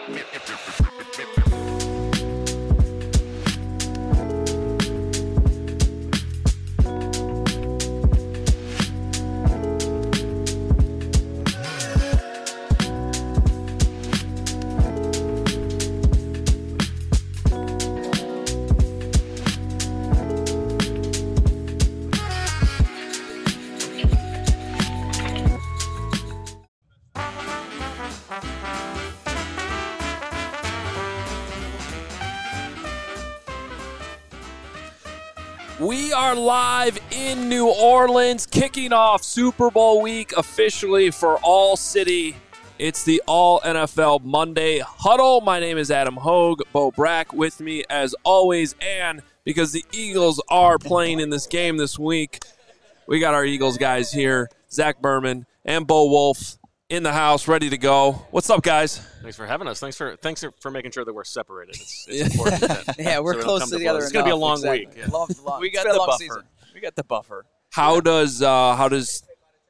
We are live in New Orleans, kicking off Super Bowl week officially for All City. It's the All NFL Monday Huddle. My name is Adam Hogue. Bo Brack with me as always, and because the Eagles are playing in this game this week, we got our Eagles guys here, Zach Berman and Bo Wolf in the house, ready to go. What's up, guys? Thanks for having us. Thanks for making sure that we're separated. It's important. Yeah, we're close to the other. It's going to be a long week. Yeah. We got the buffer. Season. We got the buffer. How does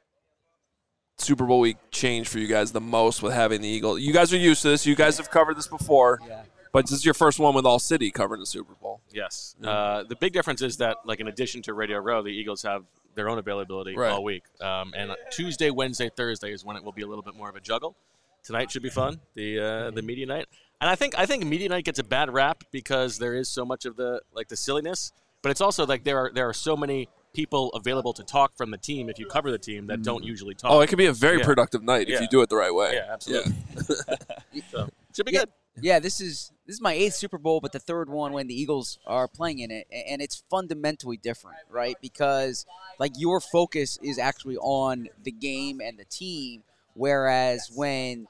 Super Bowl week change for you guys the most with having the Eagles? You guys are used to this. You guys have covered this before. Yeah. But this is your first one with All City covering the Super Bowl. Yes. The big difference is that, like, in addition to Radio Row, the Eagles have their own availability all week. And Tuesday, Wednesday, Thursday is when it will be a little bit more of a juggle. Tonight should be fun, the media night. And I think media night gets a bad rap because there is so much of the silliness, but it's also like there are so many people available to talk from the team if you cover the team that don't usually talk. Oh, it could be a very productive night if you do it the right way. Yeah, absolutely. Yeah. So, should be good. Yeah, this is my 8th Super Bowl, but the 3rd one when the Eagles are playing in it, and it's fundamentally different, right? Because like your focus is actually on the game and the team, whereas when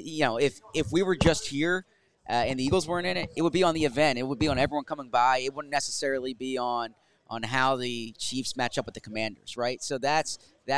if we were just here and the Eagles weren't in it, it would be on the event. It would be on everyone coming by. It wouldn't necessarily be on how the Chiefs match up with the Commanders, right? So that's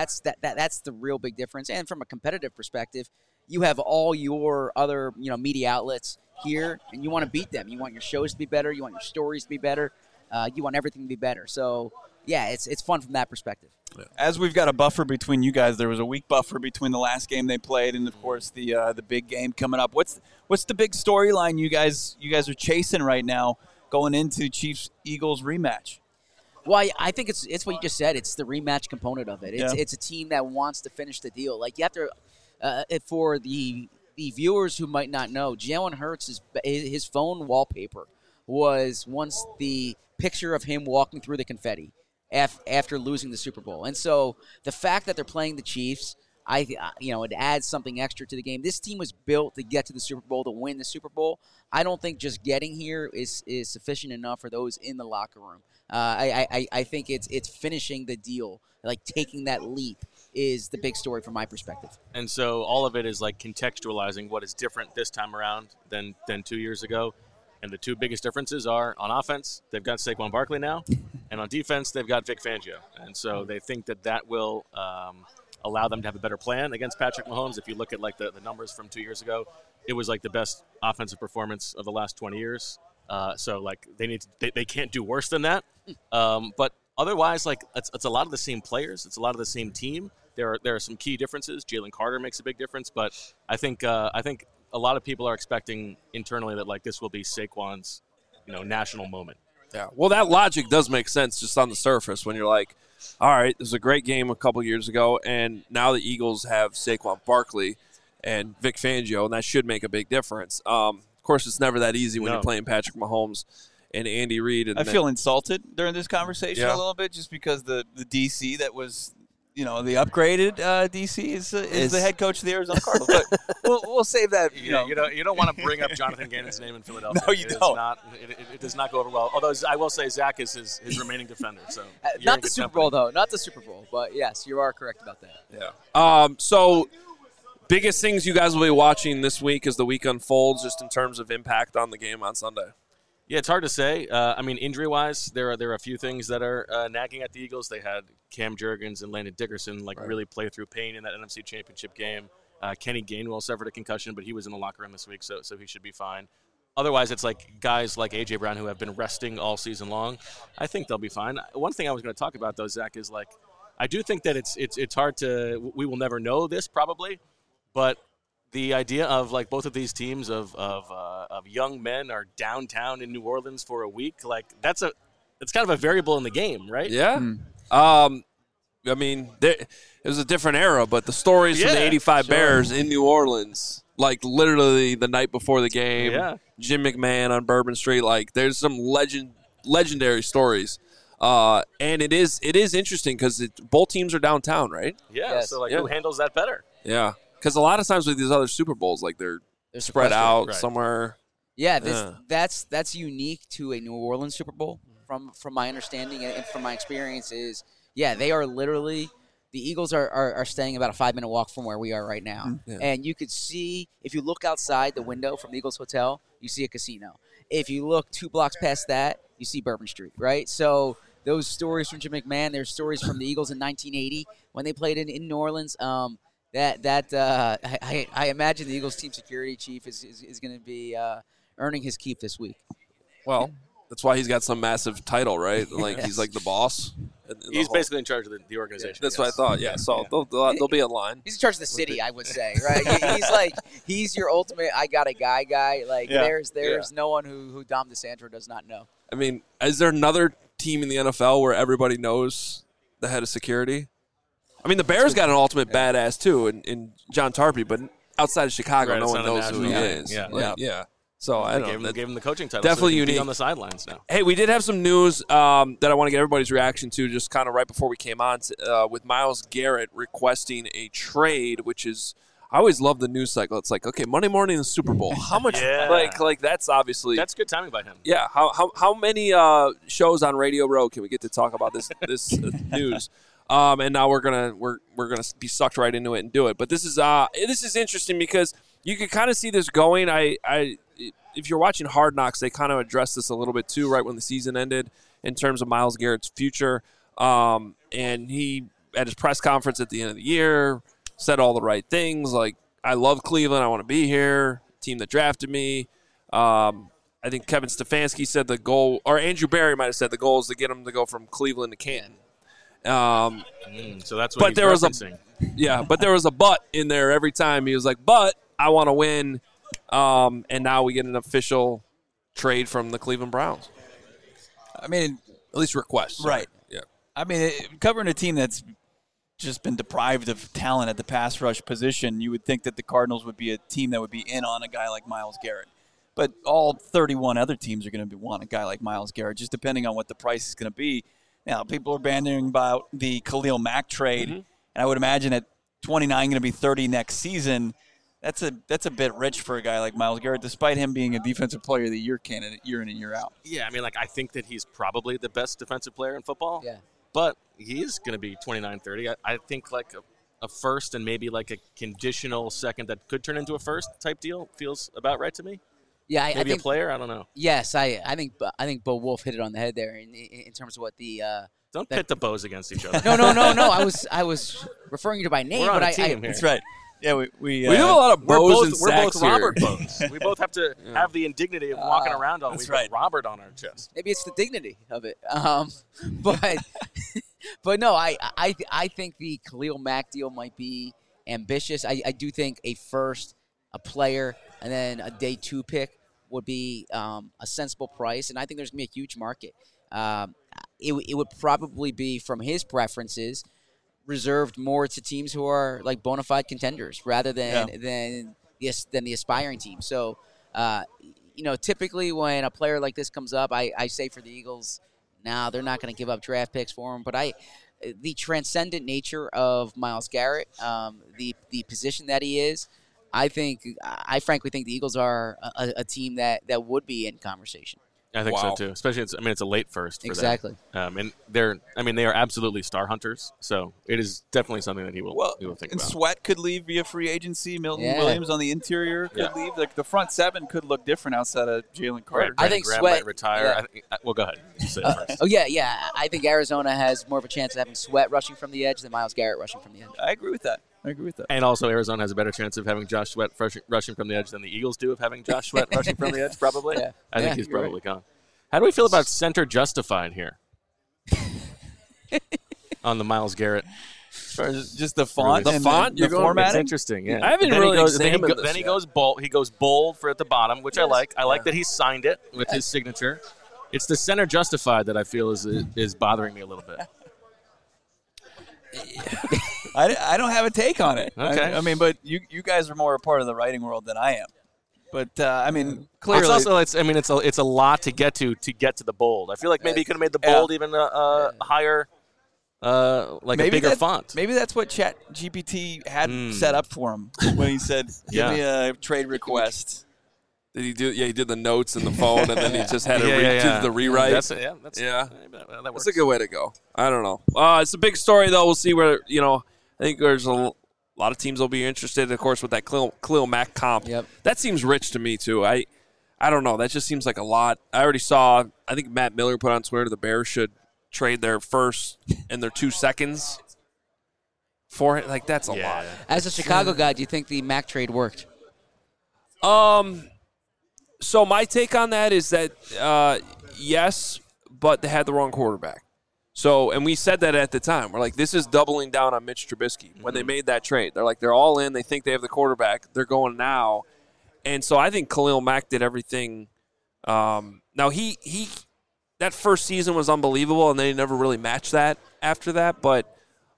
the real big difference. And from a competitive perspective, you have all your other media outlets here, and you want to beat them. You want your shows to be better. You want your stories to be better. You want everything to be better. So, yeah, it's fun from that perspective. As we've got a buffer between you guys, there was a week buffer between the last game they played and, of course, the big game coming up. What's the big storyline you guys are chasing right now going into Chiefs-Eagles rematch? Well, I think it's what you just said. It's the rematch component of it. It's a team that wants to finish the deal. Like, you have to for the viewers who might not know, Jalen Hurts, his phone wallpaper was once the picture of him walking through the confetti after losing the Super Bowl. And so the fact that they're playing the Chiefs, it adds something extra to the game. This team was built to get to the Super Bowl, to win the Super Bowl. I don't think just getting here is sufficient enough for those in the locker room. I think it's finishing the deal, like taking that leap is the big story from my perspective. And so all of it is like contextualizing what is different this time around than 2 years ago. And the two biggest differences are on offense, they've got Saquon Barkley now, and on defense, they've got Vic Fangio. And so they think that will allow them to have a better plan against Patrick Mahomes. If you look at like the numbers from 2 years ago, it was like the best offensive performance of the last 20 years. So like they can't do worse than that. But otherwise, like it's a lot of the same players. It's a lot of the same team. There are some key differences. Jalen Carter makes a big difference, but I think a lot of people are expecting internally that like this will be Saquon's national moment. Yeah, well, that logic does make sense just on the surface when you're like, all right, this was a great game a couple years ago, and now the Eagles have Saquon Barkley and Vic Fangio, and that should make a big difference. Of course, it's never that easy when you're playing Patrick Mahomes and Andy Reid. And I feel insulted during this conversation a little bit just because the DC that was – the upgraded DC is the head coach of the Arizona Cardinals. But we'll save that. You don't want to bring up Jonathan Gannon's name in Philadelphia. No, you don't. It does not go over well. Although I will say Zach is his remaining defender. So not the Super Bowl, though. Not the Super Bowl. But, yes, you are correct about that. Yeah. So biggest things you guys will be watching this week as the week unfolds just in terms of impact on the game on Sunday? Yeah, it's hard to say. Injury-wise, there are a few things that are nagging at the Eagles. They had Cam Jurgens and Landon Dickerson really play through pain in that NFC Championship game. Kenny Gainwell suffered a concussion, but he was in the locker room this week, so he should be fine. Otherwise, it's like guys like A.J. Brown who have been resting all season long. I think they'll be fine. One thing I was going to talk about, though, Zach, is like I do think that it's hard to – we will never know this probably, but the idea of like both of these teams of young men are downtown in New Orleans for a week, like it's kind of a variable in the game, right? Yeah. I mean, it was a different era, but the stories from the 85 Bears in New Orleans, like literally the night before the game, Jim McMahon on Bourbon Street, like there's some legendary stories. And it is interesting because both teams are downtown, right? Yeah, Yes. so who handles that better? Yeah, because a lot of times with these other Super Bowls, like they're spread out somewhere. Yeah, that's unique to a New Orleans Super Bowl from my understanding and from my experience is, they are literally – the Eagles are staying about a 5-minute walk from where we are right now. Yeah. And you could see – if you look outside the window from the Eagles Hotel, you see a casino. If you look 2 blocks past that, you see Bourbon Street, right? So those stories from Jim McMahon, there's stories from the Eagles in 1980 when they played in New Orleans. I imagine the Eagles team security chief is going to be earning his keep this week. Well, that's why he's got some massive title, right? Like he's like the boss. He's basically in charge of the organization. That's what I thought. Yeah, so they'll be in line. He's in charge of the city, I would say, right? He's your ultimate I got a guy. Like there's no one who Dom DeSanto does not know. I mean, is there another team in the NFL where everybody knows the head of security? I mean, the Bears got an ultimate badass too in John Tarpey, but outside of Chicago, no one knows who he is. Yeah. So I don't know. Gave him the coaching title. Definitely so unique. On the sidelines now. Hey, we did have some news that I want to get everybody's reaction to just kind of right before we came on with Myles Garrett requesting a trade, which is I always love the news cycle. It's like, okay, Monday morning in the Super Bowl. How much like that's obviously that's good timing by him. Yeah. How many shows on Radio Row can we get to talk about this news? And now we're gonna be sucked right into it and do it. But this is interesting because you can kind of see this going. If you're watching Hard Knocks, they kind of addressed this a little bit too, right when the season ended, in terms of Myles Garrett's future. And he, at his press conference at the end of the year, said all the right things, like, I love Cleveland, I want to be here, team that drafted me. I think Kevin Stefanski said the goal, or Andrew Berry might have said the goal is to get him to go from Cleveland to Canton. So that's what he's referencing. But there was a but in there every time. He was like, but I want to win. And now we get an official trade from the Cleveland Browns. I mean, at least request. Right. Yeah. I mean, covering a team that's just been deprived of talent at the pass rush position, you would think that the Cardinals would be a team that would be in on a guy like Myles Garrett. But all 31 other teams are going to want a guy like Myles Garrett, just depending on what the price is going to be. Now, people are bandying about the Khalil Mack trade, and I would imagine at 29 going to be 30 next season. That's a bit rich for a guy like Myles Garrett, despite him being a Defensive Player of the Year candidate year in and year out. Yeah, I mean, I think that he's probably the best defensive player in football. Yeah. But he is going to be 29, 30. I think like a first and maybe like a conditional second that could turn into a first type deal feels about right to me. Yeah, I think a player. I don't know. Yes, I think Bo Wolf hit it on the head there in terms of what the. Don't pit the bows against each other. No. I was referring you to by name, We're on but a team here. That's right. Yeah, we have a lot of bows and we're both sacks here. Robert bows. We both have to have the indignity of walking around all week with Robert on our chest. Maybe it's the dignity of it. But no, I think the Khalil Mack deal might be ambitious. I do think a first, a player, and then a day 2 pick would be a sensible price, and I think there's going to be a huge market. It would probably be, from his preferences, reserved more to teams who are like bona fide contenders rather than the aspiring team. So, typically when a player like this comes up, I say for the Eagles, no, they're not going to give up draft picks for him. But the transcendent nature of Myles Garrett, the position that he is, I frankly think the Eagles are a team that would be in conversation. I think so too. Especially, it's a late first for exactly. them. And they are absolutely star hunters. So it is definitely something that he will think and about. Sweat could leave via free agency. Milton Williams on the interior could leave. Like the front 7 could look different outside of Jalen Carter. I think Graham Sweat might retire. Yeah. Well, go ahead. You say it first. I think Arizona has more of a chance of having Sweat rushing from the edge than Myles Garrett rushing from the edge. I agree with that. And also, Arizona has a better chance of having Josh Sweat rushing from the edge than the Eagles do of having Josh Sweat rushing from the edge, probably. Yeah. I think he's probably gone. How do we feel about center justified here on the Myles Garrett Or just the font, The and font? the You're going- It's formatting. interesting. Yeah, I haven't then really He goes, examined then this he yet. goes bold. He goes bold for at the bottom, which I like. I like that he signed it with his signature. It's the center justified that I feel is bothering me a little bit. I don't have a take on it. Okay. I mean, but you guys are more a part of the writing world than I am. But I mean, clearly, It's also it's a lot to get to the bold. I feel like maybe he could have made the bold even higher, like a bigger font. Maybe that's what Chat GPT had set up for him when he said, "Give me a trade request." Did he do? Yeah, he did the notes in the phone, and then he just had to Yeah. do the rewrite. That's Yeah. that works. That's a good way to go. I don't know. It's a big story, though. We'll see where, I think there's a lot of teams will be interested, of course, with that Khalil Mack comp. Yep. That seems rich to me, too. I don't know. That just seems like a lot. I already saw, I think Matt Miller put on Twitter the Bears should trade their first and their 2 seconds for it. Like, that's a lot. As a Chicago guy, do you think the Mac trade worked? So my take on that is that, yes, but they had the wrong quarterback. So, and we said that at the time. We're like, this is doubling down on Mitch Trubisky when they made that trade. They're like, they're all in. They think they have the quarterback. They're going now. And so I think Khalil Mack did everything. Now, he that first season was unbelievable, and they never really matched that after that. But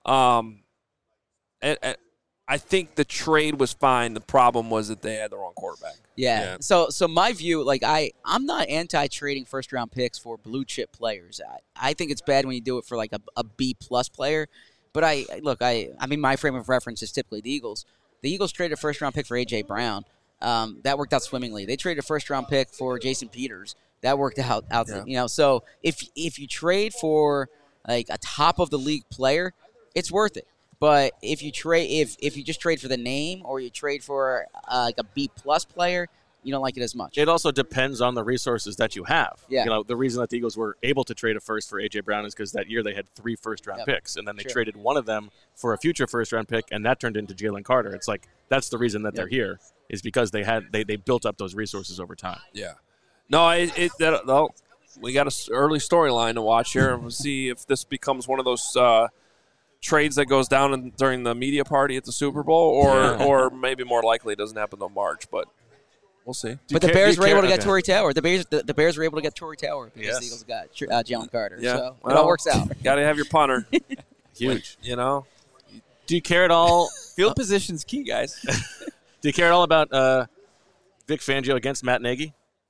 I think the trade was fine. The problem was that they had the wrong quarterback. Yeah. So my view, like I'm not anti-trading first-round picks for blue-chip players. I think it's bad when you do it for like a B-plus player. But I mean, my frame of reference is typically the Eagles. The Eagles traded a first-round pick for A.J. Brown. That worked out swimmingly. They traded a first-round pick for Jason Peters. That worked out. Yeah. So if you trade for like a top-of-the-league player, it's worth it. But if you just trade for the name or you trade for like a B-plus player, you don't like it as much. It also depends on the resources that you have. Yeah. The reason that the Eagles were able to trade a first for A.J. Brown is because that year they had 3 first-round picks, and then they traded one of them for a future first-round pick, and that turned into Jalen Carter. It's like that's the reason that they're here is because they built up those resources over time. Yeah. No, we got an early storyline to watch here, and we'll see if this becomes one of those trades that goes down during the media party at the Super Bowl, or maybe more likely it doesn't happen until March, but we'll see. But the Bears were able to get Torrey Tower. The Bears were able to get Torrey Tower because the Eagles got Jalen Carter. Yeah. So it all works out. Got to have your punter. Huge. Do you care at all? Field position's key, guys. Do you care at all about Vic Fangio against Matt Nagy?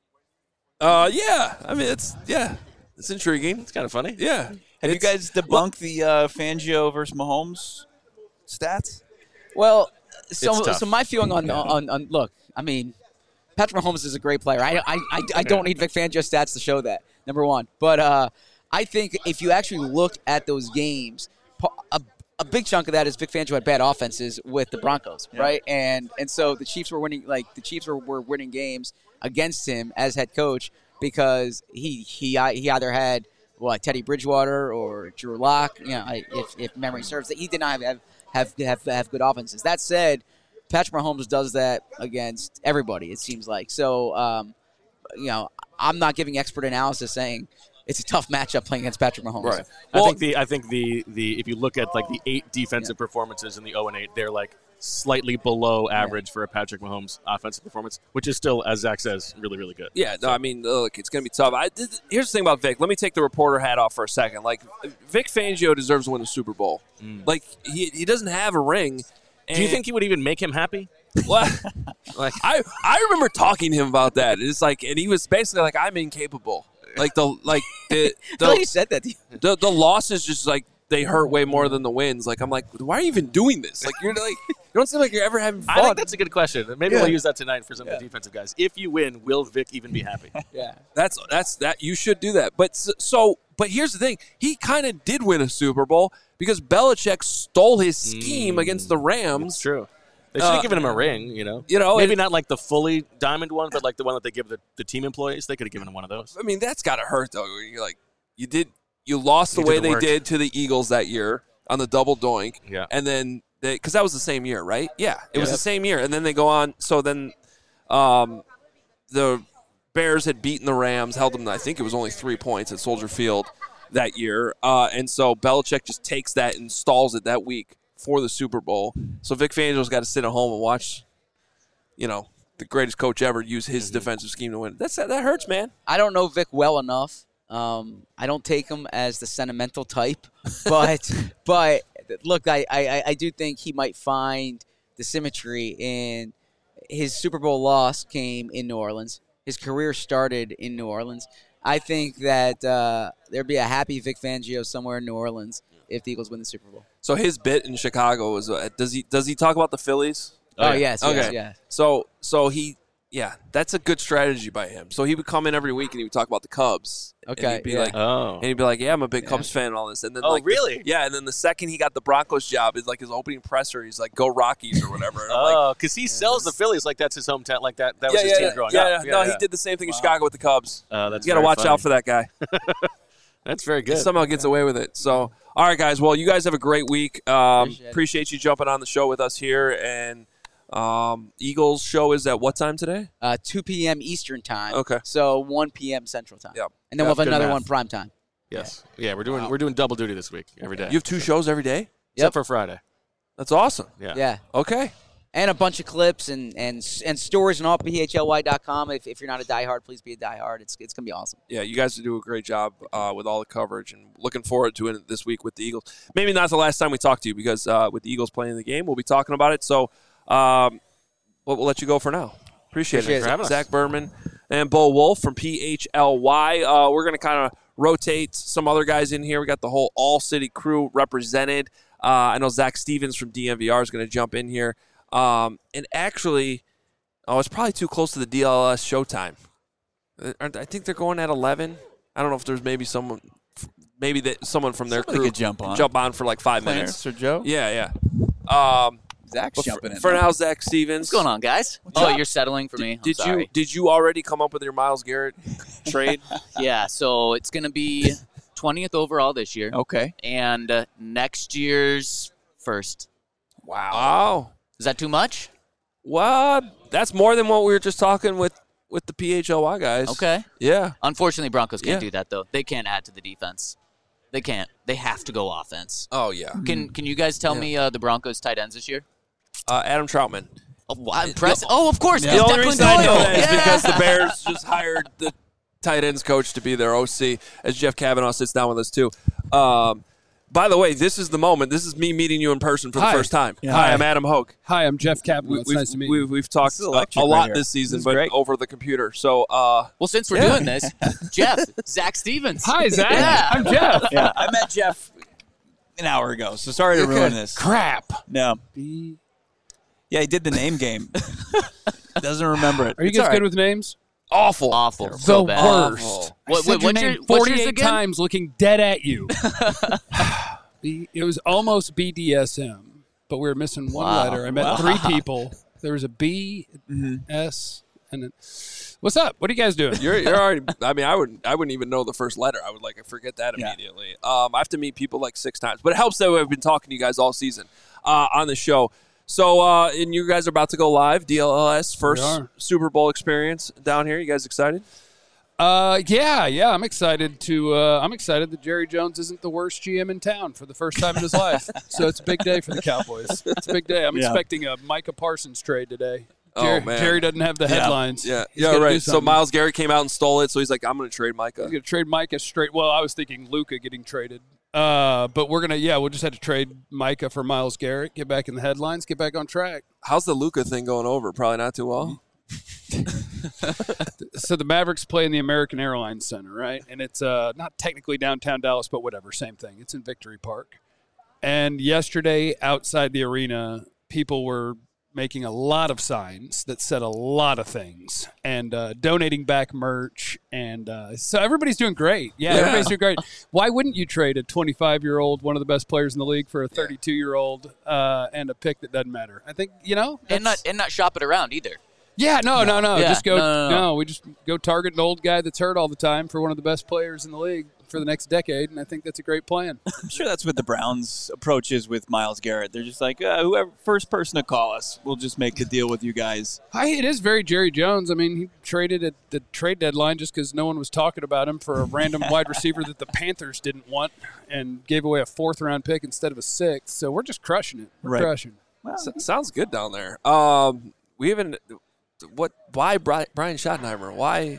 Yeah. I mean, it's intriguing. It's kind of funny. Yeah. Have you guys debunked the Fangio versus Mahomes stats? Well, It's tough. so my feeling on look, I mean, Patrick Mahomes is a great player. I don't need Vic Fangio stats to show that, number one. But I think if you actually look at those games, a big chunk of that is Vic Fangio had bad offenses with the Broncos, right? And so the Chiefs were winning, were winning games against him as head coach because he either had Teddy Bridgewater or Drew Lock, if memory serves, that he did not have good offenses. That said, Patrick Mahomes does that against everybody, it seems like. So, I'm not giving expert analysis saying it's a tough matchup playing against Patrick Mahomes. Right. I think the if you look at like the 8 defensive performances in the 0-8, they're like slightly below average for a Patrick Mahomes offensive performance, which is still, as Zach says, really, really good. Yeah, no, I mean, look, it's going to be tough. Here's the thing about Vic. Let me take the reporter hat off for a second. Like, Vic Fangio deserves to win the Super Bowl. Like, he doesn't have a ring. Do you think he would even make him happy? Well, I remember talking to him about that. It's like, and he was basically like, I'm incapable. Like I he said that. The losses just like they hurt way more than the wins. Like I'm like, why are you even doing this? Like you don't seem like you're ever having fun. I think that's a good question. Maybe we'll use that tonight for some of the defensive guys. If you win, will Vic even be happy? Yeah, that's that. You should do that. But but here's the thing: he kind of did win a Super Bowl because Belichick stole his scheme against the Rams. It's true. They should have given him a ring, Maybe not like the fully diamond one, but like the one that they give the team employees. They could have given him one of those. I mean, that's got to hurt, though. You're like, you lost the way they did to the Eagles that year on the double doink. Yeah. And then, because that was the same year, right? Yeah, it was the same year. And then they go on. So then the Bears had beaten the Rams, held them, I think it was only 3 points at Soldier Field that year. And so Belichick just takes that and stalls it that week for the Super Bowl. So Vic Fangio's got to sit at home and watch, the greatest coach ever use his defensive scheme to win. That hurts, man. I don't know Vic well enough. I don't take him as the sentimental type, but look, I do think he might find the symmetry in his Super Bowl loss came in New Orleans. His career started in New Orleans. I think that there'd be a happy Vic Fangio somewhere in New Orleans if the Eagles win the Super Bowl. So his bit in Chicago was does he talk about the Phillies? Oh, yes, okay. yes. So he that's a good strategy by him. So he would come in every week and he would talk about the Cubs. Okay, and he'd be like, yeah, I'm a big Cubs fan and all this. And then really? And then the second he got the Broncos job is like his opening presser. He's like, go Rockies or whatever. And I'm like, because he sells the Phillies like that's his hometown, like that was his team growing up. No, he did the same thing in Chicago with the Cubs. That's you got to watch out for that guy. That's very good. He somehow gets away with it. So, all right, guys. Well, you guys have a great week. Appreciate you jumping on the show with us here. And Eagles show is at what time today? 2 p.m. Eastern time. Okay. So 1 p.m. Central time. Yep. And then we'll have Good another math. one prime time. Yes. Yeah, we're doing double duty this week every day. You have 2 shows every day? Except for Friday. That's awesome. Yeah. Okay. And a bunch of clips and stories on allphlY.com. If you're not a diehard, please be a diehard. It's going to be awesome. Yeah, you guys do a great job with all the coverage, and looking forward to it this week with the Eagles. Maybe not the last time we talk to you because with the Eagles playing the game, we'll be talking about it. So we'll let you go for now. Appreciate it. for having us. Zach Berman and Bo Wolf from PHLY. We're going to kind of rotate some other guys in here. We got the whole All-City crew represented. I know Zach Stevens from DNVR is going to jump in here. And actually, it's probably too close to the DLS showtime. I think they're going at 11. I don't know if there's maybe someone from their crew could jump on for like 5 Clarence minutes. or Joe? Yeah. Zach's jumping in. For now, Zach Stevens. What's going on, guys? You're settling for me. I'm sorry. Did you already come up with your Myles Garrett trade? Yeah, so it's going to be 20th overall this year. Okay. And next year's first. Wow. Is that too much? Well, that's more than what we were just talking with the PHLY guys. Okay. Yeah. Unfortunately, Broncos can't Yeah. do that, though. They can't add to the defense. They can't. They have to go offense. Oh, yeah. Can you guys tell me the Broncos tight ends this year? Adam Troutman. Impressive. Oh, of course. The Because only Declan reason I know Doyle. that is Yeah. because the Bears just hired the tight ends coach to be their OC, as Jeff Kavanaugh sits down with us, too. By the way, this is the moment. This is me meeting you in person for the first time. Yeah. Hi, Hi. I'm Adam Hoke. Hi, I'm Jeff Kavanaugh. It's nice to meet you. We've talked This is electric a lot right here. this season, This is but great. over the computer. So, Well, since we're doing this, Jeff, Zach Stevens. Hi, Zach. Yeah. I'm Jeff. Yeah, I met Jeff an hour ago, so sorry to ruin this. Crap. No. Yeah, he did the name game. Doesn't remember it. Are you It's guys all good right. with names? awful. Awful. The So bad. worst. What, I said what's your your name what's yours 48 again? times looking dead at you. It was almost BDSM, but we were missing one Wow. letter. I met 3 people. There was a B, S, and a... What's up? What are you guys doing? You're already. I mean, I wouldn't even know the first letter. I would forget that immediately. I have to meet people 6 times, but it helps that I've been talking to you guys all season on the show. So, and you guys are about to go live. DLS first We are. Super Bowl experience down here. You guys excited? Yeah. I'm excited that Jerry Jones isn't the worst GM in town for the first time in his life. So it's a big day for the Cowboys. It's a big day. I'm expecting a Micah Parsons trade today. Oh, man. Jerry doesn't have the headlines. Yeah, He's gotta do right. So something. Myles Garrett came out and stole it. So he's like, I'm going to trade Micah. He's going to trade Micah straight. Well, I was thinking Luka getting traded. But we'll just have to trade Micah for Myles Garrett, get back in the headlines, get back on track. How's the Luka thing going over? Probably not too well. So the Mavericks play in the American Airlines Center, right? And it's not technically downtown Dallas, but whatever, same thing. It's in Victory Park. And yesterday, outside the arena, people were making a lot of signs that said a lot of things and donating back merch. And so everybody's doing great. Yeah, everybody's doing great. Why wouldn't you trade a 25-year-old, one of the best players in the league, for a 32-year-old and a pick that doesn't matter? I think, and not shop it around either. Yeah, no. Yeah, Just go. no. No, we just go target an old guy that's hurt all the time for one of the best players in the league for the next decade, and I think that's a great plan. I'm sure that's what the Browns' approach is with Myles Garrett. They're just like, whoever first person to call us, we'll just make the deal with you guys. It is very Jerry Jones. I mean, he traded at the trade deadline just because no one was talking about him for a random wide receiver that the Panthers didn't want and gave away a 4th-round pick instead of a 6th. So we're just crushing it. We're crushing it. Well, Sounds good down there. We haven't. Why Brian Schottenheimer? Why?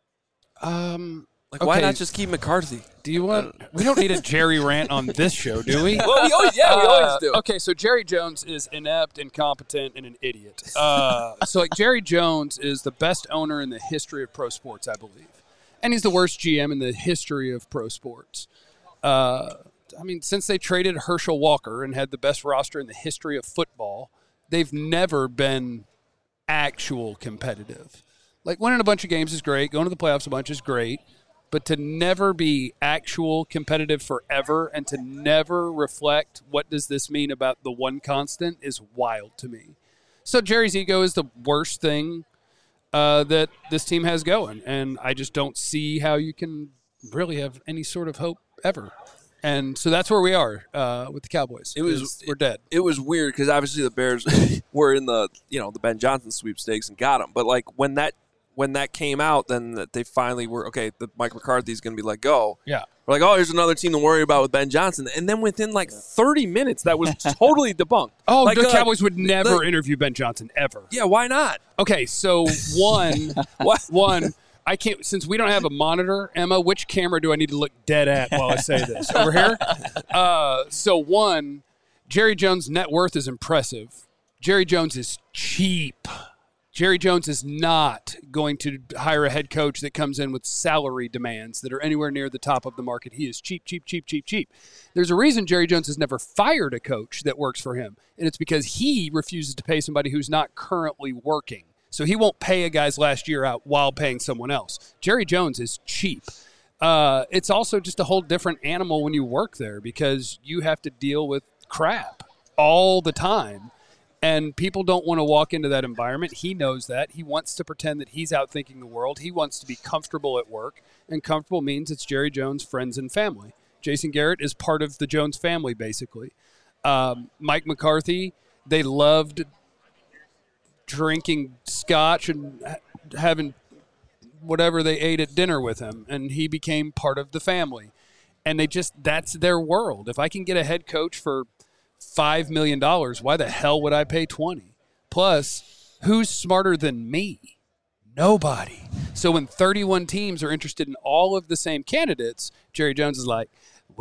Why not just keep McCarthy? Do you want? We don't need a Jerry rant on this show, do we? Well, we always do. Okay, so Jerry Jones is inept, incompetent, and an idiot. So Jerry Jones is the best owner in the history of pro sports, I believe, and he's the worst GM in the history of pro sports. Since they traded Herschel Walker and had the best roster in the history of football, they've never been actual competitive. Like, winning a bunch of games is great. Going to the playoffs a bunch is great. But to never be actual competitive forever and to never reflect what does this mean about the one constant is wild to me. So Jerry's ego is the worst thing that this team has going. And I just don't see how you can really have any sort of hope ever. And so that's where we are with the Cowboys. We're dead. It was weird because obviously the Bears were in the Ben Johnson sweepstakes and got him. But like when that came out, then they finally were the Mike McCarthy's going to be let go. Yeah, we're like, here's another team to worry about with Ben Johnson. And then within like 30 minutes, that was totally debunked. The Cowboys would never interview Ben Johnson ever. Yeah, why not? Okay, so one. I can't, since we don't have a monitor, Emma, which camera do I need to look dead at while I say this? Over here? So one, Jerry Jones' net worth is impressive. Jerry Jones is cheap. Jerry Jones is not going to hire a head coach that comes in with salary demands that are anywhere near the top of the market. He is cheap, cheap, cheap, cheap, cheap. There's a reason Jerry Jones has never fired a coach that works for him, and it's because he refuses to pay somebody who's not currently working. So he won't pay a guy's last year out while paying someone else. Jerry Jones is cheap. It's also just a whole different animal when you work there because you have to deal with crap all the time. And people don't want to walk into that environment. He knows that. He wants to pretend that he's outthinking the world. He wants to be comfortable at work. And comfortable means it's Jerry Jones' friends and family. Jason Garrett is part of the Jones family, basically. Mike McCarthy, they loved drinking scotch and having whatever they ate at dinner with him, and he became part of the family. And that's their world. If I can get a head coach for $5 million, why the hell would I pay 20? Plus, who's smarter than me? Nobody. So when 31 teams are interested in all of the same candidates, Jerry Jones is like,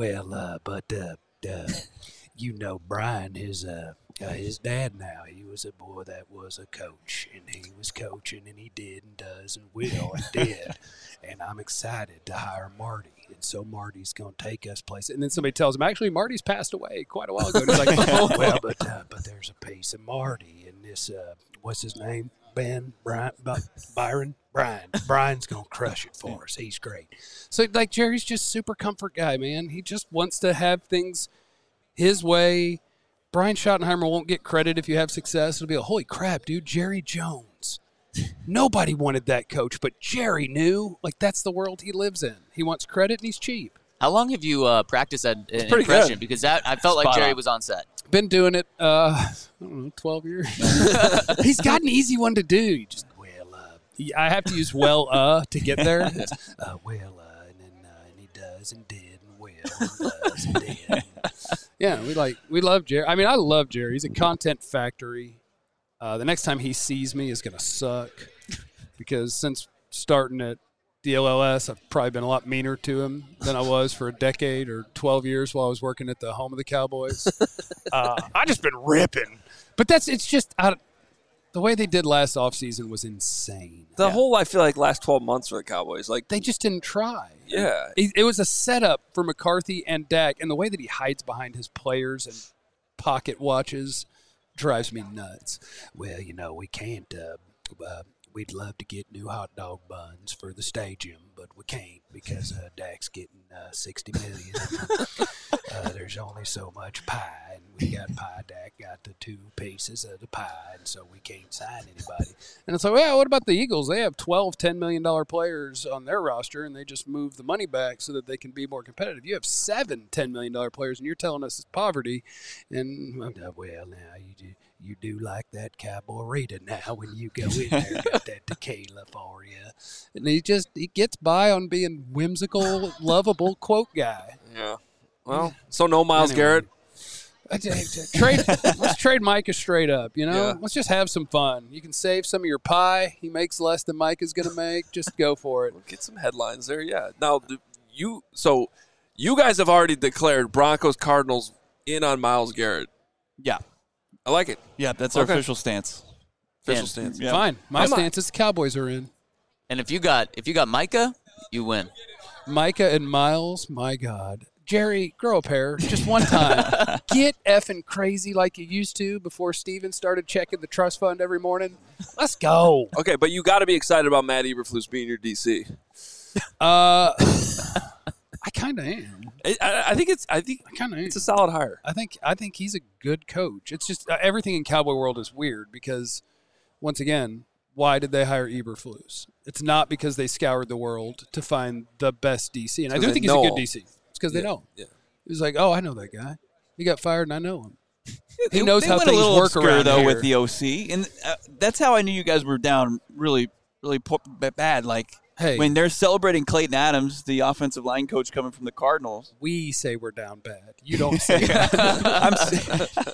Brian, his dad now, he was a boy that was a coach, and he was coaching, and he did and does and will and did, and I'm excited to hire Marty, and so Marty's going to take us places. And then somebody tells him, actually, Marty's passed away quite a while ago. And he's like, but there's a piece of Marty in this, what's his name? Byron? Brian's going to crush it for us. He's great. So, Jerry's just super comfort guy, man. He just wants to have things his way. Brian Schottenheimer won't get credit if you have success. It'll be holy crap, dude, Jerry Jones. Nobody wanted that coach, but Jerry knew. That's the world he lives in. He wants credit, and he's cheap. How long have you practiced that impression? Good. Because I felt like Jerry was on set. Been doing it, 12 years. He's got an easy one to do. You just, I have to use to get there. And he does and did and will and does and did. Yeah, we love Jerry. I mean, I love Jerry. He's a content factory. The next time he sees me is going to suck because since starting at DLLS, I've probably been a lot meaner to him than I was for a decade or 12 years while I was working at the home of the Cowboys. I just been ripping. But it's just the way they did last offseason was insane. I feel like last 12 months for the Cowboys, they just didn't try. Yeah. It was a setup for McCarthy and Dak, and the way that he hides behind his players and pocket watches drives me nuts. Well, we can't we'd love to get new hot dog buns for the stadium, but we can't because Dak's getting $60 million. There's only so much pie, and we got pie. Dak got the 2 pieces of the pie, and so we can't sign anybody. And it's like, well, what about the Eagles? They have 12 $10 million players on their roster, and they just move the money back so that they can be more competitive. You have 7 $10 million players, and you're telling us it's poverty. And, well, now you do like that Cowboy Rita now when you go in there, got that tequila for you. And he gets by on being whimsical, lovable quote guy. Yeah. Well, so no Myles Garrett. Let's trade Micah straight up, Yeah. Let's just have some fun. You can save some of your pie. He makes less than Micah's going to make. Just go for it. We'll get some headlines there, yeah. Now, you guys have already declared Broncos Cardinals in on Myles Garrett. Yeah. I like it. Yeah, that's our official stance. Stance. Yeah. Fine. My stance is the Cowboys are in. And if you got Micah, you win. Micah and Myles, my God. Jerry, grow a pair just one time. Get effing crazy like you used to before Steven started checking the trust fund every morning. Let's go. Okay, but you got to be excited about Matt Eberflus being your DC. I kind of am. I think it's a solid hire. I think he's a good coach. It's just everything in Cowboy world is weird because, once again, why did they hire Eberflus? It's not because they scoured the world to find the best DC, and I do think he's a good DC. It's because they know. Yeah. He was like, oh, I know that guy. He got fired, and I know him. He knows how things work around though here. with the OC, and that's how I knew you guys were down really, really bad. Like. Hey, when they're celebrating Clayton Adams, the offensive line coach coming from the Cardinals. We say we're down bad. You don't say that.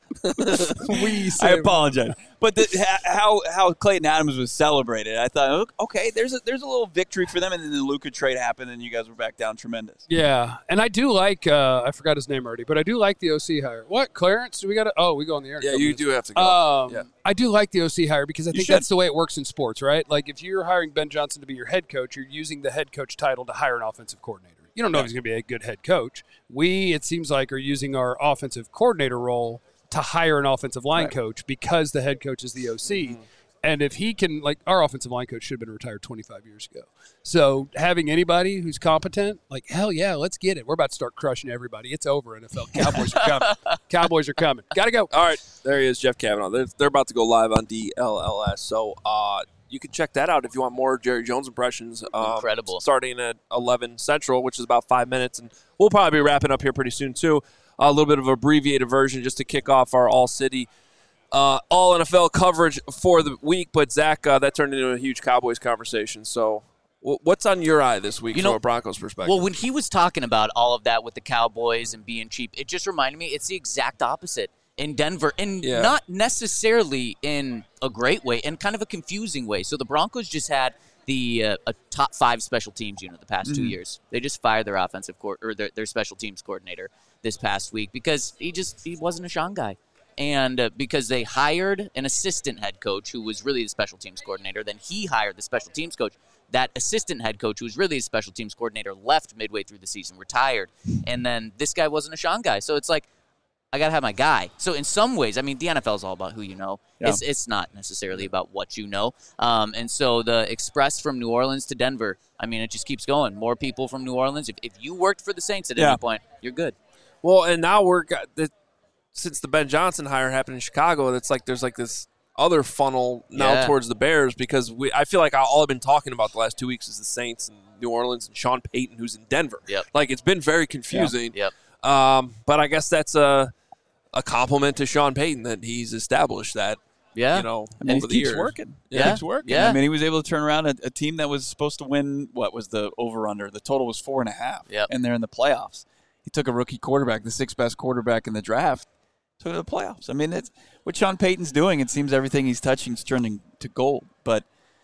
I apologize. But how Clayton Adams was celebrated, I thought, okay, there's a little victory for them, and then the Luka trade happened, and you guys were back down tremendous. Yeah, and I do like, I forgot his name already, but I do like the OC hire. What, Clarence? Do we got to? Oh, we go on the air. Yeah, you do have to go. Yeah. I do like the OC hire because I think that's the way it works in sports, right? Like if you're hiring Ben Johnson to be your head coach, you're using the head coach title to hire an offensive coordinator. You don't know if he's going to be a good head coach. We, it seems like, are using our offensive coordinator role to hire an offensive line coach because the head coach is the OC. Mm-hmm. And if he can, like, our offensive line coach should have been retired 25 years ago. So having anybody who's competent, like, hell yeah, let's get it. We're about to start crushing everybody. It's over, NFL. Cowboys are coming. Cowboys are coming. Got to go. All right. There he is, Jeff Kavanaugh. They're about to go live on DLLS. So you can check that out if you want more Jerry Jones impressions. Incredible. Starting at 11 Central, which is about 5 minutes. And we'll probably be wrapping up here pretty soon, too. A little bit of an abbreviated version just to kick off our all-city, all-NFL coverage for the week. But, Zach, that turned into a huge Cowboys conversation. So what's on your eye this week from a Broncos perspective? Well, when he was talking about all of that with the Cowboys and being cheap, it just reminded me it's the exact opposite in Denver. And not necessarily in a great way, in kind of a confusing way. So the Broncos just had a top 5 special teams unit the past 2 years. They just fired their offensive their special teams coordinator this past week because he wasn't a Sean guy. And because they hired an assistant head coach who was really the special teams coordinator, then he hired the special teams coach. That assistant head coach, who was really a special teams coordinator, left midway through the season, retired. And then this guy wasn't a Sean guy. So it's like, I got to have my guy. So in some ways, I mean, the NFL is all about who you know. Yeah. It's not necessarily about what you know. And so the express from New Orleans to Denver, I mean, it just keeps going. More people from New Orleans. If you worked for the Saints at any point, you're good. Well, and now since the Ben Johnson hire happened in Chicago, it's like there's like this other funnel now towards the Bears because I feel like all I've been talking about the last 2 weeks is the Saints and New Orleans and Sean Payton, who's in Denver. Yep. Like, it's been very confusing. Yep. But I guess that's a compliment to Sean Payton that he's established that. Yeah. Over the years. Keeps working. Yeah. It keeps working. Yeah. I mean, he was able to turn around a team that was supposed to win, what was the over-under? The total was 4.5. Yep. And they're in the playoffs. He took a rookie quarterback, the 6th best quarterback in the draft, took it to the playoffs. I mean, it's what Sean Payton's doing. It seems everything he's touching is turning to gold. But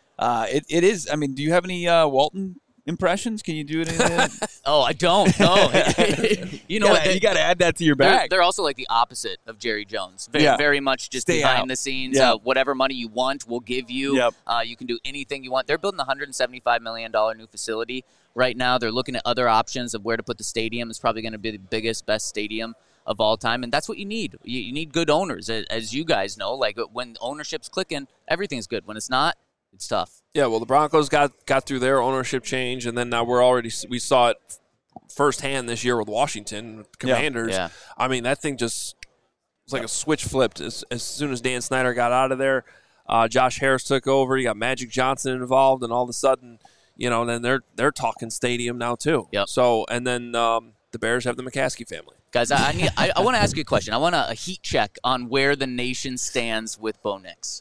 it is. I mean, do you have any Walton impressions? Can you do it? Oh, I don't. No. You know what? You got to add that to your bag. They're also like the opposite of Jerry Jones. Very much just Stay behind out. the scenes. Yeah. Whatever money you want, we'll give you. Yep. You can do anything you want. They're building a $175 million new facility right now. They're looking at other options of where to put the stadium. It's probably going to be the biggest, best stadium of all time, and that's what you need. You need good owners, as you guys know. Like when ownership's clicking, everything's good. When it's not, It's tough. Yeah, well, the Broncos got through their ownership change, and then now we saw it firsthand this year with Washington, with the Commanders. Yeah. I mean, that thing just was like a switch flipped as soon as Dan Snyder got out of there. Josh Harris took over. You got Magic Johnson involved, and all of a sudden, then they're talking stadium now too. Yep. So, and then the Bears have the McCaskey family. Guys, I want to ask you a question. I want a heat check on where the nation stands with Bo Nix.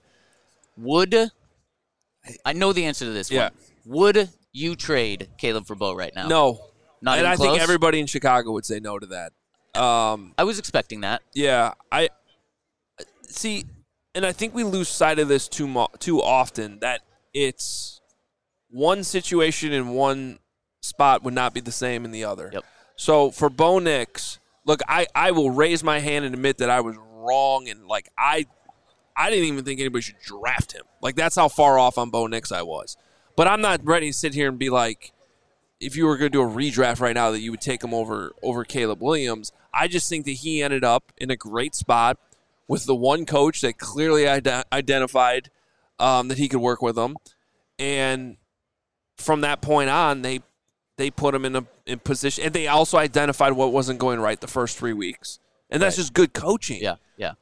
I know the answer to this one. Would you trade Caleb for Bo right now? No. Not and even I close? think everybody in Chicago would say no to that. I was expecting that. Yeah, I see, and I think we lose sight of this too often, that it's one situation in one spot would not be the same in the other. Yep. So for Bo Nix, look, I will raise my hand and admit that I was wrong, and I didn't even think anybody should draft him. That's how far off on Bo Nix I was. But I'm not ready to sit here and be like, if you were going to do a redraft right now, that you would take him over Caleb Williams. I just think that he ended up in a great spot with the one coach that clearly identified that he could work with him. And from that point on, they put him in position. And they also identified what wasn't going right the first 3 weeks. And that's just good coaching. Yeah.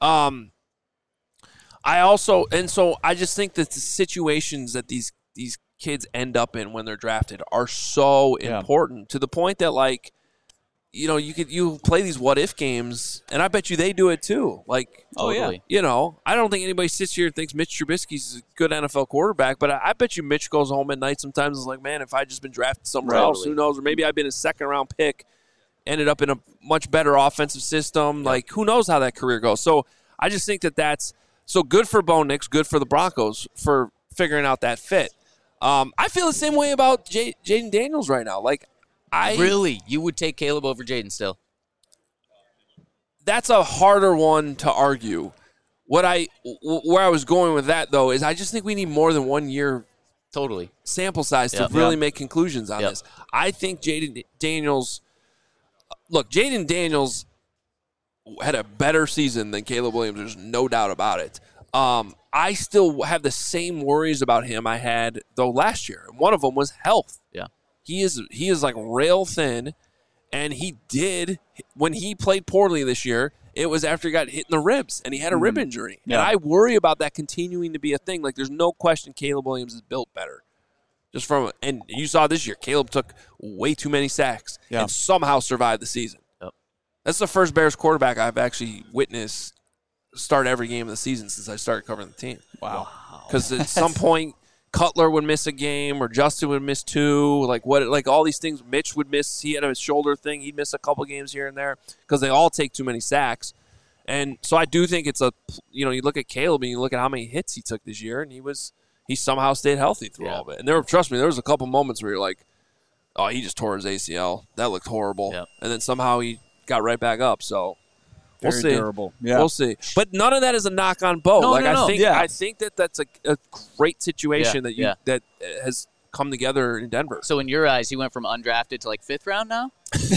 I just think that the situations that these kids end up in when they're drafted are so important, to the point that you play these what if games, and I bet you they do it too. Totally. I don't think anybody sits here and thinks Mitch Trubisky's a good NFL quarterback, but I bet you Mitch goes home at night sometimes and is like, man, if I just been drafted somewhere else, who knows? Or maybe I've been a second round pick, ended up in a much better offensive system. Who knows how that career goes? So I just think that's so good for Bo Nix, good for the Broncos for figuring out that fit. I feel the same way about Jaden Daniels right now. Really? You would take Caleb over Jaden still? That's a harder one to argue. Where I was going with that, though, is I just think we need more than 1 year totally sample size to really make conclusions on this. I think Jaden Daniels had a better season than Caleb Williams. There's no doubt about it. I still have the same worries about him I had, though, last year. One of them was health. Yeah. He is rail thin, and when he played poorly this year, it was after he got hit in the ribs, and he had a rib injury. Yeah. And I worry about that continuing to be a thing. There's no question Caleb Williams is built better. And you saw this year, Caleb took way too many sacks and somehow survived the season. Yep. That's the first Bears quarterback I've actually witnessed start every game of the season since I started covering the team. Wow. Because at some point, Cutler would miss a game or Justin would miss two. All these things, Mitch would miss. He had a shoulder thing. He'd miss a couple games here and there because they all take too many sacks. And so I do think it's you look at Caleb and you look at how many hits he took this year, and he somehow stayed healthy through all of it. And trust me, there was a couple moments where you're like, oh, he just tore his ACL. That looked horrible. Yep. And then somehow he got right back up. So we'll see. Durable. Yeah. We'll see. But none of that is a knock on Bo. No. I think that's a great situation that has come together in Denver. So in your eyes, he went from undrafted to 5th round now?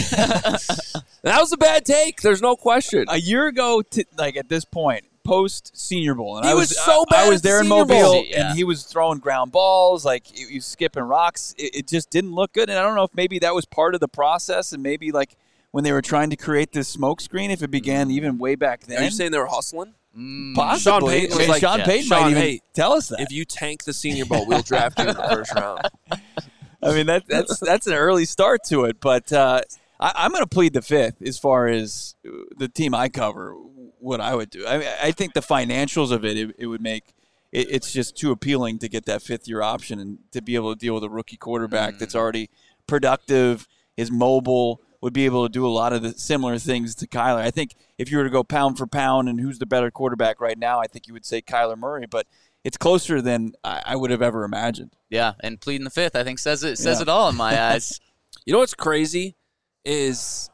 That was a bad take. There's no question. A year ago, at this point, post Senior Bowl, and he was so bad. I was there in Senior Mobile, Bowl. and he was throwing ground balls, he was skipping rocks. It just didn't look good, and I don't know if maybe that was part of the process, and maybe when they were trying to create this smokescreen, if it began even way back then. Are you saying they were hustling? Possibly. Sean Payton might even tell us that. If you tank the Senior Bowl, we'll draft you in the first round. I mean, that's an early start to it, but I'm going to plead the fifth as far as the team I cover, what I would do. I think the financials of it would make it's just too appealing to get that fifth-year option and to be able to deal with a rookie quarterback that's already productive, is mobile, would be able to do a lot of the similar things to Kyler. I think if you were to go pound for pound and who's the better quarterback right now, I think you would say Kyler Murray, but it's closer than I would have ever imagined. Yeah, and pleading the fifth, I think says it all in my eyes. You know what's crazy is,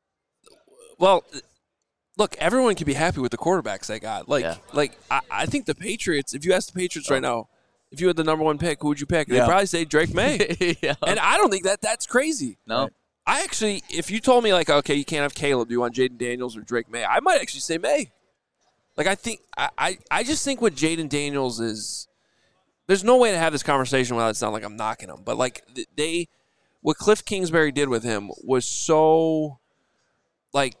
well, look, everyone can be happy with the quarterbacks they got. I think the Patriots, if you ask the Patriots right now, if you had the number one pick, who would you pick? They'd probably say Drake May. Yeah. And I don't think that's crazy. No. I actually, if you told me, okay, you can't have Caleb, do you want Jaden Daniels or Drake May? I might actually say May. I just think what Jaden Daniels is, there's no way to have this conversation without it sounding like I'm knocking them. But like what Cliff Kingsbury did with him was so like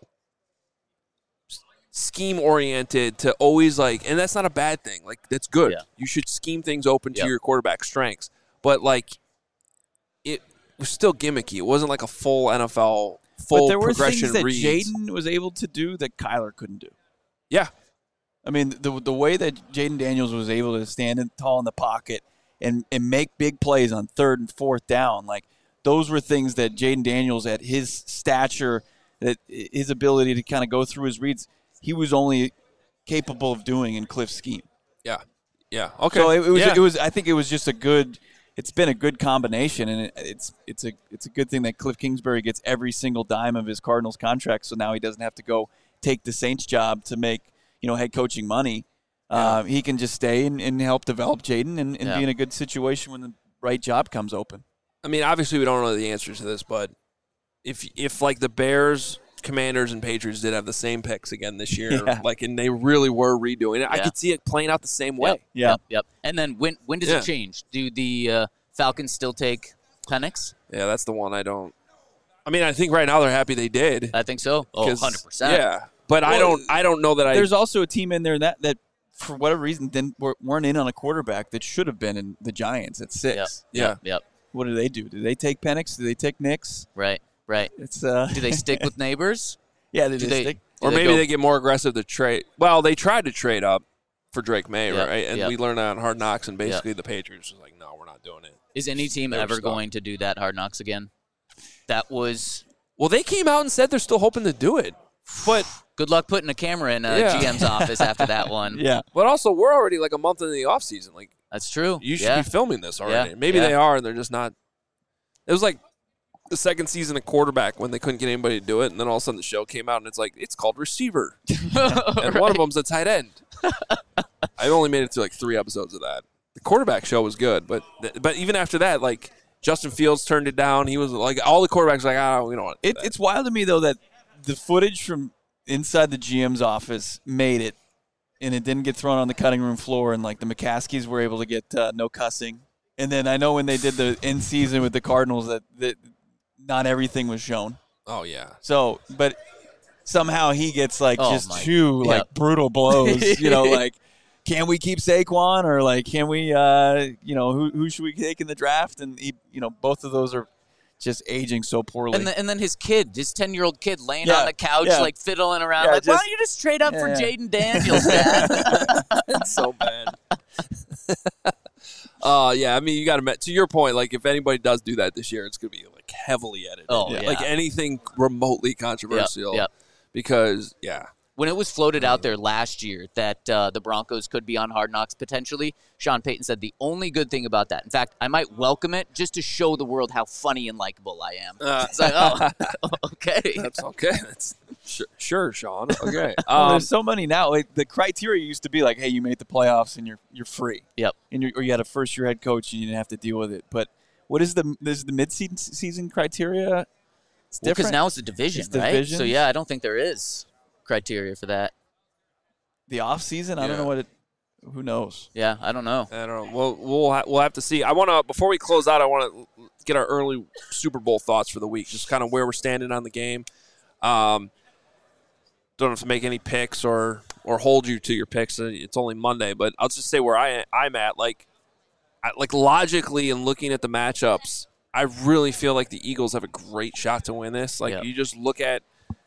scheme oriented to always like, and that's not a bad thing. Like that's good. Yeah. You should scheme things open to your quarterback's strengths. But like it was still gimmicky. It wasn't like a full NFL but there were progression things that reads. Jaden was able to do that Kyler couldn't do. Yeah. I mean, the way that Jaden Daniels was able to stand tall in the pocket and make big plays on 3rd and 4th down, like those were things that Jaden Daniels, at his stature, that his ability to kind of go through his reads, he was only capable of doing in Cliff's scheme. Yeah. Yeah. Okay. So it was. I think it was just a good. It's been a good combination, and it's a good thing that Cliff Kingsbury gets every single dime of his Cardinals contract. So now he doesn't have to go take the Saints job to make head coaching money. He can just stay and help develop Jaden and be in a good situation when the right job comes open. I mean, obviously we don't know the answers to this, but if like the Bears, Commanders, and Patriots did have the same picks again this year, and they really were redoing it, I could see it playing out the same way. Yep. And then when does it change? Do the Falcons still take Penix? Yeah, that's the one I don't. I mean, I think right now they're happy they did. I think so. 100%. Yeah, but I don't know that There's also a team in there that for whatever reason weren't in on a quarterback that should have been in the Giants at 6. Yep. What do? Do they take Penix? Do they take Nix? Right. It's do they stick with Neighbors? Yeah, they stick. Or maybe they get more aggressive to trade. Well, they tried to trade up for Drake May, right? And we learned that on Hard Knocks, and basically the Patriots was like, no, we're not doing it. Is any team ever going to do that Hard Knocks again? That was... Well, they came out and said they're still hoping to do it. But good luck putting a camera in GM's office after that one. Yeah. But also, we're already like a month into the offseason. Like, that's true. You should be filming this already. Yeah. Maybe they are, and they're just not. It was like the second season of Quarterback when they couldn't get anybody to do it, and then all of a sudden the show came out, and it's like, it's called Receiver. And one of them's a tight end. I only made it to like 3 episodes of that. The Quarterback show was good, but even after that, like, Justin Fields turned it down. He was like, all the quarterbacks were like, we don't want to do that. It's wild to me, though, that the footage from inside the GM's office made it, and it didn't get thrown on the cutting room floor, and like the McCaskies were able to get no cussing. And then I know when they did the end season with the Cardinals that not everything was shown. Oh yeah. So, but somehow he gets like two brutal blows. Like, can we keep Saquon, or like, can we who should we take in the draft? And he, both of those are just aging so poorly. And then his 10-year-old kid laying on the couch, like fiddling around, why don't you just trade up for Jaden Daniels, Dad? It's so bad. I mean, you got to your point. Like, if anybody does do that this year, it's going to be like heavily edited. Like anything remotely controversial. Yep. Because when it was floated out there last year that the Broncos could be on Hard Knocks potentially, Sean Payton said the only good thing about that, in fact, I might welcome it just to show the world how funny and likable I am. It's like, okay. That's okay. That's sure, Sean. Okay. There's so many now. Like, the criteria used to be like, hey, you made the playoffs and you're free. Yep. And or you had a first-year head coach and you didn't have to deal with it. But what is the mid-season criteria? It's different. Because now it's a division, right? Divisions. So, I don't think there is criteria for that. The off season, I don't know what it. Who knows? Yeah, I don't know. Well, we'll have to see. I want to, before we close out, I want to get our early Super Bowl thoughts for the week, just kind of where we're standing on the game. Don't have to make any picks or hold you to your picks. It's only Monday, but I'll just say where I'm at. Like logically and looking at the matchups, I really feel like the Eagles have a great shot to win this. Like you just look at,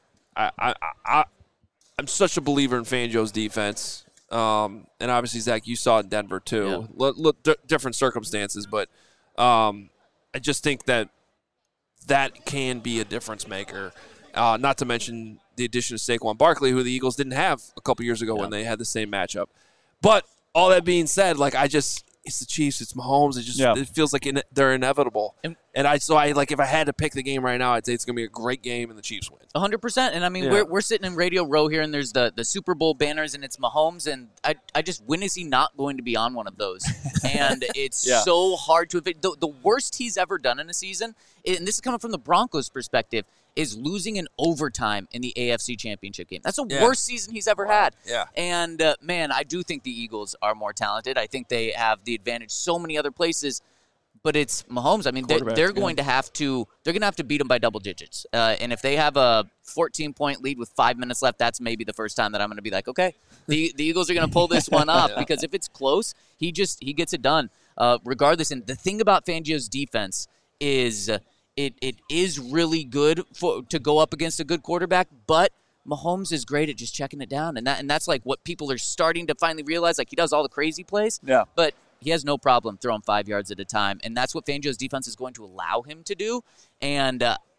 I'm such a believer in Fangio's defense. And obviously, Zach, you saw it in Denver too. Different circumstances, but I just think that can be a difference maker. Not to mention the addition of Saquon Barkley, who the Eagles didn't have a couple years ago when they had the same matchup. But all that being said, it's the Chiefs, it's Mahomes. It feels like they're inevitable. And I like, if I had to pick the game right now, I'd say it's going to be a great game and the Chiefs win. 100%. And I mean, we're sitting in Radio Row here, and there's the Super Bowl banners, and it's Mahomes. And I just, when is he not going to be on one of those? And it's so hard to. The worst he's ever done in a season, and this is coming from the Broncos' perspective, is losing in overtime in the AFC Championship game. That's the worst season he's ever had. Yeah. And, man, I do think the Eagles are more talented. I think they have the advantage so many other places. But it's Mahomes. I mean, they're going to have to beat him by double digits. And if they have a 14-point lead with 5 minutes left, that's maybe the first time that I'm going to be like, okay, the Eagles are going to pull this one off. Because if it's close, he gets it done regardless. And the thing about Fangio's defense is it is really good to go up against a good quarterback, but Mahomes is great at just checking it down, and that's like what people are starting to finally realize. Like, he does all the crazy plays, but he has no problem throwing 5 yards at a time, and that's what Fangio's defense is going to allow him to do. And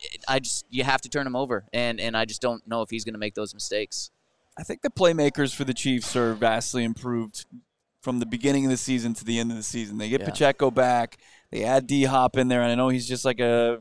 you have to turn him over, and I just don't know if he's going to make those mistakes. I think the playmakers for the Chiefs are vastly improved from the beginning of the season to the end of the season. They get Pacheco back. They add D-Hop in there, and I know he's just like a,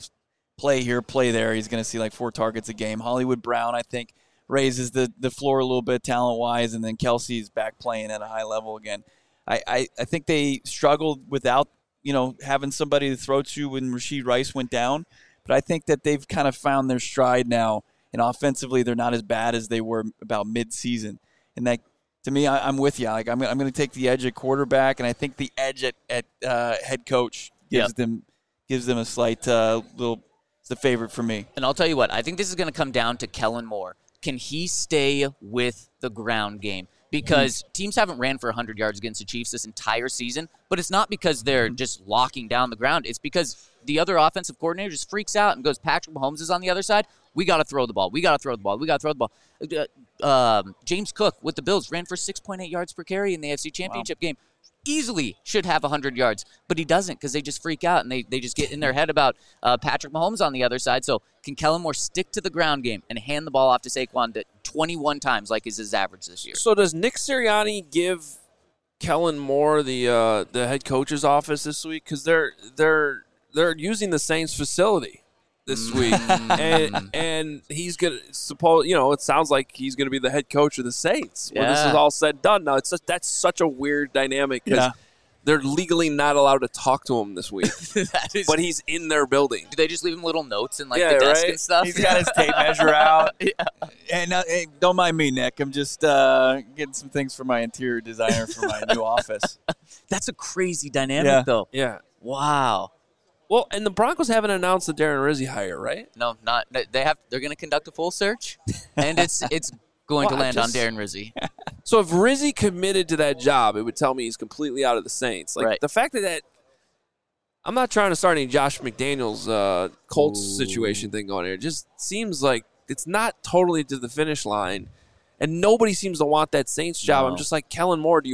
play here, play there. He's going to see like 4 targets a game. Hollywood Brown, I think, raises the floor a little bit talent-wise, and then Kelsey's back playing at a high level again. I think they struggled without, having somebody to throw to when Rashee Rice went down, but I think that they've kind of found their stride now, and offensively they're not as bad as they were about mid-season. And that, to me, I'm with you. Like, I'm going to take the edge at quarterback, and I think the edge at head coach gives them a slight it's the favorite for me. And I'll tell you what, I think this is going to come down to Kellen Moore. Can he stay with the ground game? Because teams haven't ran for 100 yards against the Chiefs this entire season, but it's not because they're just locking down the ground. It's because the other offensive coordinator just freaks out and goes, Patrick Mahomes is on the other side. We got to throw the ball. We got to throw the ball. We got to throw the ball. James Cook with the Bills ran for 6.8 yards per carry in the AFC Championship game. Easily should have 100 yards, but he doesn't because they just freak out and they just get in their head about Patrick Mahomes on the other side. So can Kellen Moore stick to the ground game and hand the ball off to Saquon 21 times like is his average this year? So does Nick Sirianni give Kellen Moore the head coach's office this week? Because they're using the Saints facility this week, and he's gonna it sounds like he's gonna be the head coach of the Saints when this is all said and done. Now that's such a weird dynamic because they're legally not allowed to talk to him this week, but he's in their building. Do they just leave him little notes in the desk and stuff? He's got his tape measure out. And hey, don't mind me, Nick. I'm just getting some things for my interior designer for my new office. That's a crazy dynamic, though. Yeah. Wow. Well, and the Broncos haven't announced the Darren Rizzi hire, right? No, not. They're going to conduct a full search, and it's going to land on Darren Rizzi. So if Rizzi committed to that job, it would tell me he's completely out of the Saints. Like the fact that I'm not trying to start any Josh McDaniels Colts situation thing going here. It just seems like it's not totally to the finish line, and nobody seems to want that Saints job. I'm just like, Kellen Moore,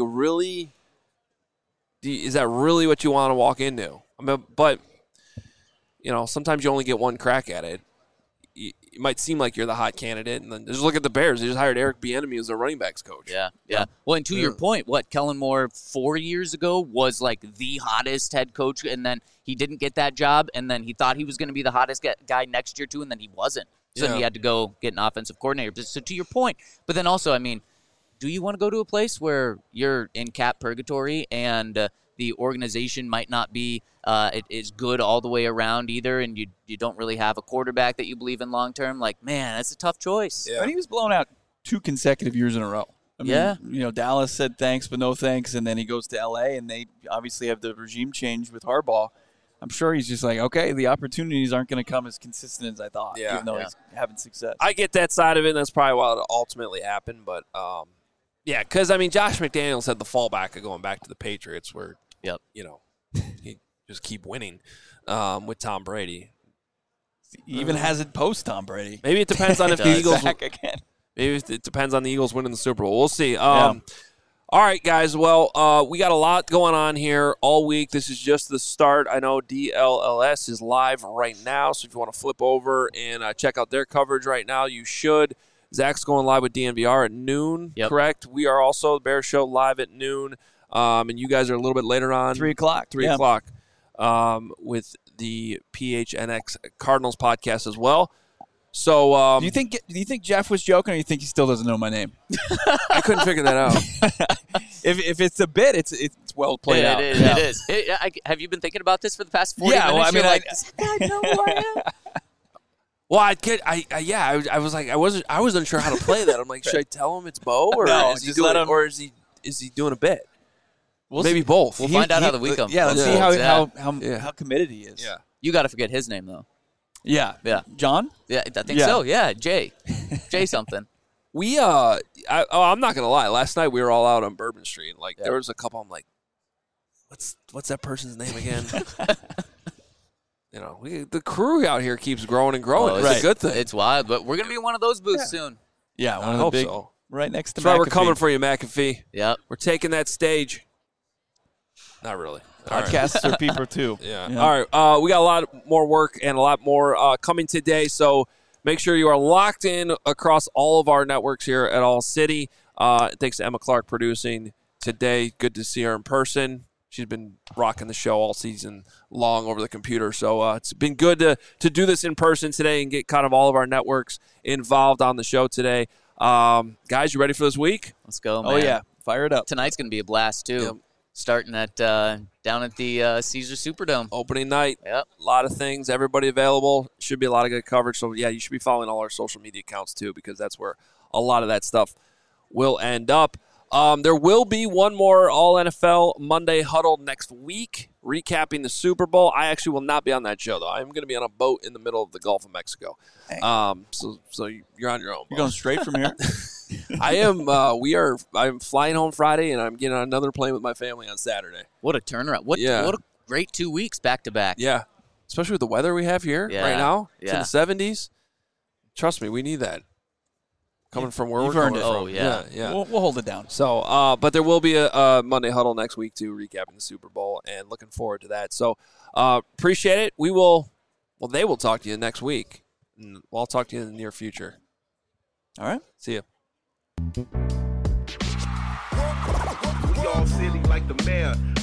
is that really what you want to walk into? I mean, but sometimes you only get one crack at it. It might seem like you're the hot candidate, and then just look at the Bears. They just hired Eric Bieniemy as their running backs coach. Yeah. Well, and to your point, Kellen Moore 4 years ago was like the hottest head coach, and then he didn't get that job, and then he thought he was going to be the hottest guy next year too, and then he wasn't. So he had to go get an offensive coordinator. So to your point, but then also, I mean, do you want to go to a place where you're in cap purgatory and the organization might not be it is good all the way around either, and you don't really have a quarterback that you believe in long term? Like, man, that's a tough choice. Yeah. But he was blown out 2 consecutive years in a row. I mean, Dallas said thanks but no thanks, and then he goes to L.A., and they obviously have the regime change with Harbaugh. I'm sure he's just like, okay, the opportunities aren't going to come as consistent as I thought, even though he's having success. I get that side of it, and that's probably why it ultimately happened. But, because, I mean, Josh McDaniels had the fallback of going back to the Patriots where, he just keep winning with Tom Brady. He even has it post Tom Brady. Maybe it depends on if the Eagles back again. Maybe it depends on the Eagles winning the Super Bowl. We'll see. All right, guys. Well, we got a lot going on here all week. This is just the start. I know DLLS is live right now, so if you want to flip over and check out their coverage right now, you should. Zach's going live with DNVR at noon, correct? We are also, the Bears Show, live at noon. And you guys are a little bit later on. 3 o'clock. 3 o'clock with the PHNX Cardinals podcast as well. So, do you think Jeff was joking, or do you think he still doesn't know my name? I couldn't figure that out. If it's a bit, it's well played out. It is. Have you been thinking about this for the past 40 minutes? Well, I mean, does that guy know who I am? Well, I was like, I wasn't sure how to play that. I'm like, should I tell him it's Bo, or No, is he just doing, let him- or is he doing a bit? We'll Maybe see. both. We'll find out how the week comes. Yeah, let's see Yeah. how committed he is. Yeah. You got to forget his name though. Yeah. Yeah. John? Yeah, I think Yeah. so. Yeah, Jay something. We I'm not gonna lie. Last night we were all out on Bourbon Street. Like there was a couple. I'm like, what's that person's name again? The crew out here keeps growing and growing. It's right. a good thing. It's wild, but we're gonna be in one of those booths soon. Yeah, one I of hope the big, so. right next to That's why we're McAfee. coming for you, McAfee. Yep. We're taking that stage. Not really. All right. Podcasts are people too. Yeah. All right. We got a lot more work and a lot more coming today. So make sure you are locked in across all of our networks here at All City. Thanks to Emma Clark producing today. Good to see her in person. She's been rocking the show all season long over the computer. So it's been good to do this in person today and get kind of all of our networks involved on the show today. Guys, you ready for this week? Let's go, man. Oh, yeah. Fire it up. Tonight's gonna be a blast too. Yep. Starting at down at the Caesar Superdome. Opening night. Yep. A lot of things. Everybody available. Should be a lot of good coverage. So, yeah, you should be following all our social media accounts, too, because that's where a lot of that stuff will end up. There will be one more All-NFL Monday Huddle next week, recapping the Super Bowl. I actually will not be on that show, though. I'm going to be on a boat in the middle of the Gulf of Mexico. So you're on your own. You're going straight from here? I am. I'm flying home Friday, and I'm getting on another plane with my family on Saturday. What a turnaround! What a great 2 weeks back to back. Yeah, especially with the weather we have here right now. It's in the 70s. Trust me, we need that. Coming from where You've we're earned coming it. from. Oh, yeah. Yeah. We'll hold it down. So, but there will be a Monday Huddle next week, too, recapping the Super Bowl, and looking forward to that. So, appreciate it. They will talk to you next week. And I'll talk to you in the near future. All right. See ya. We all silly like the mayor.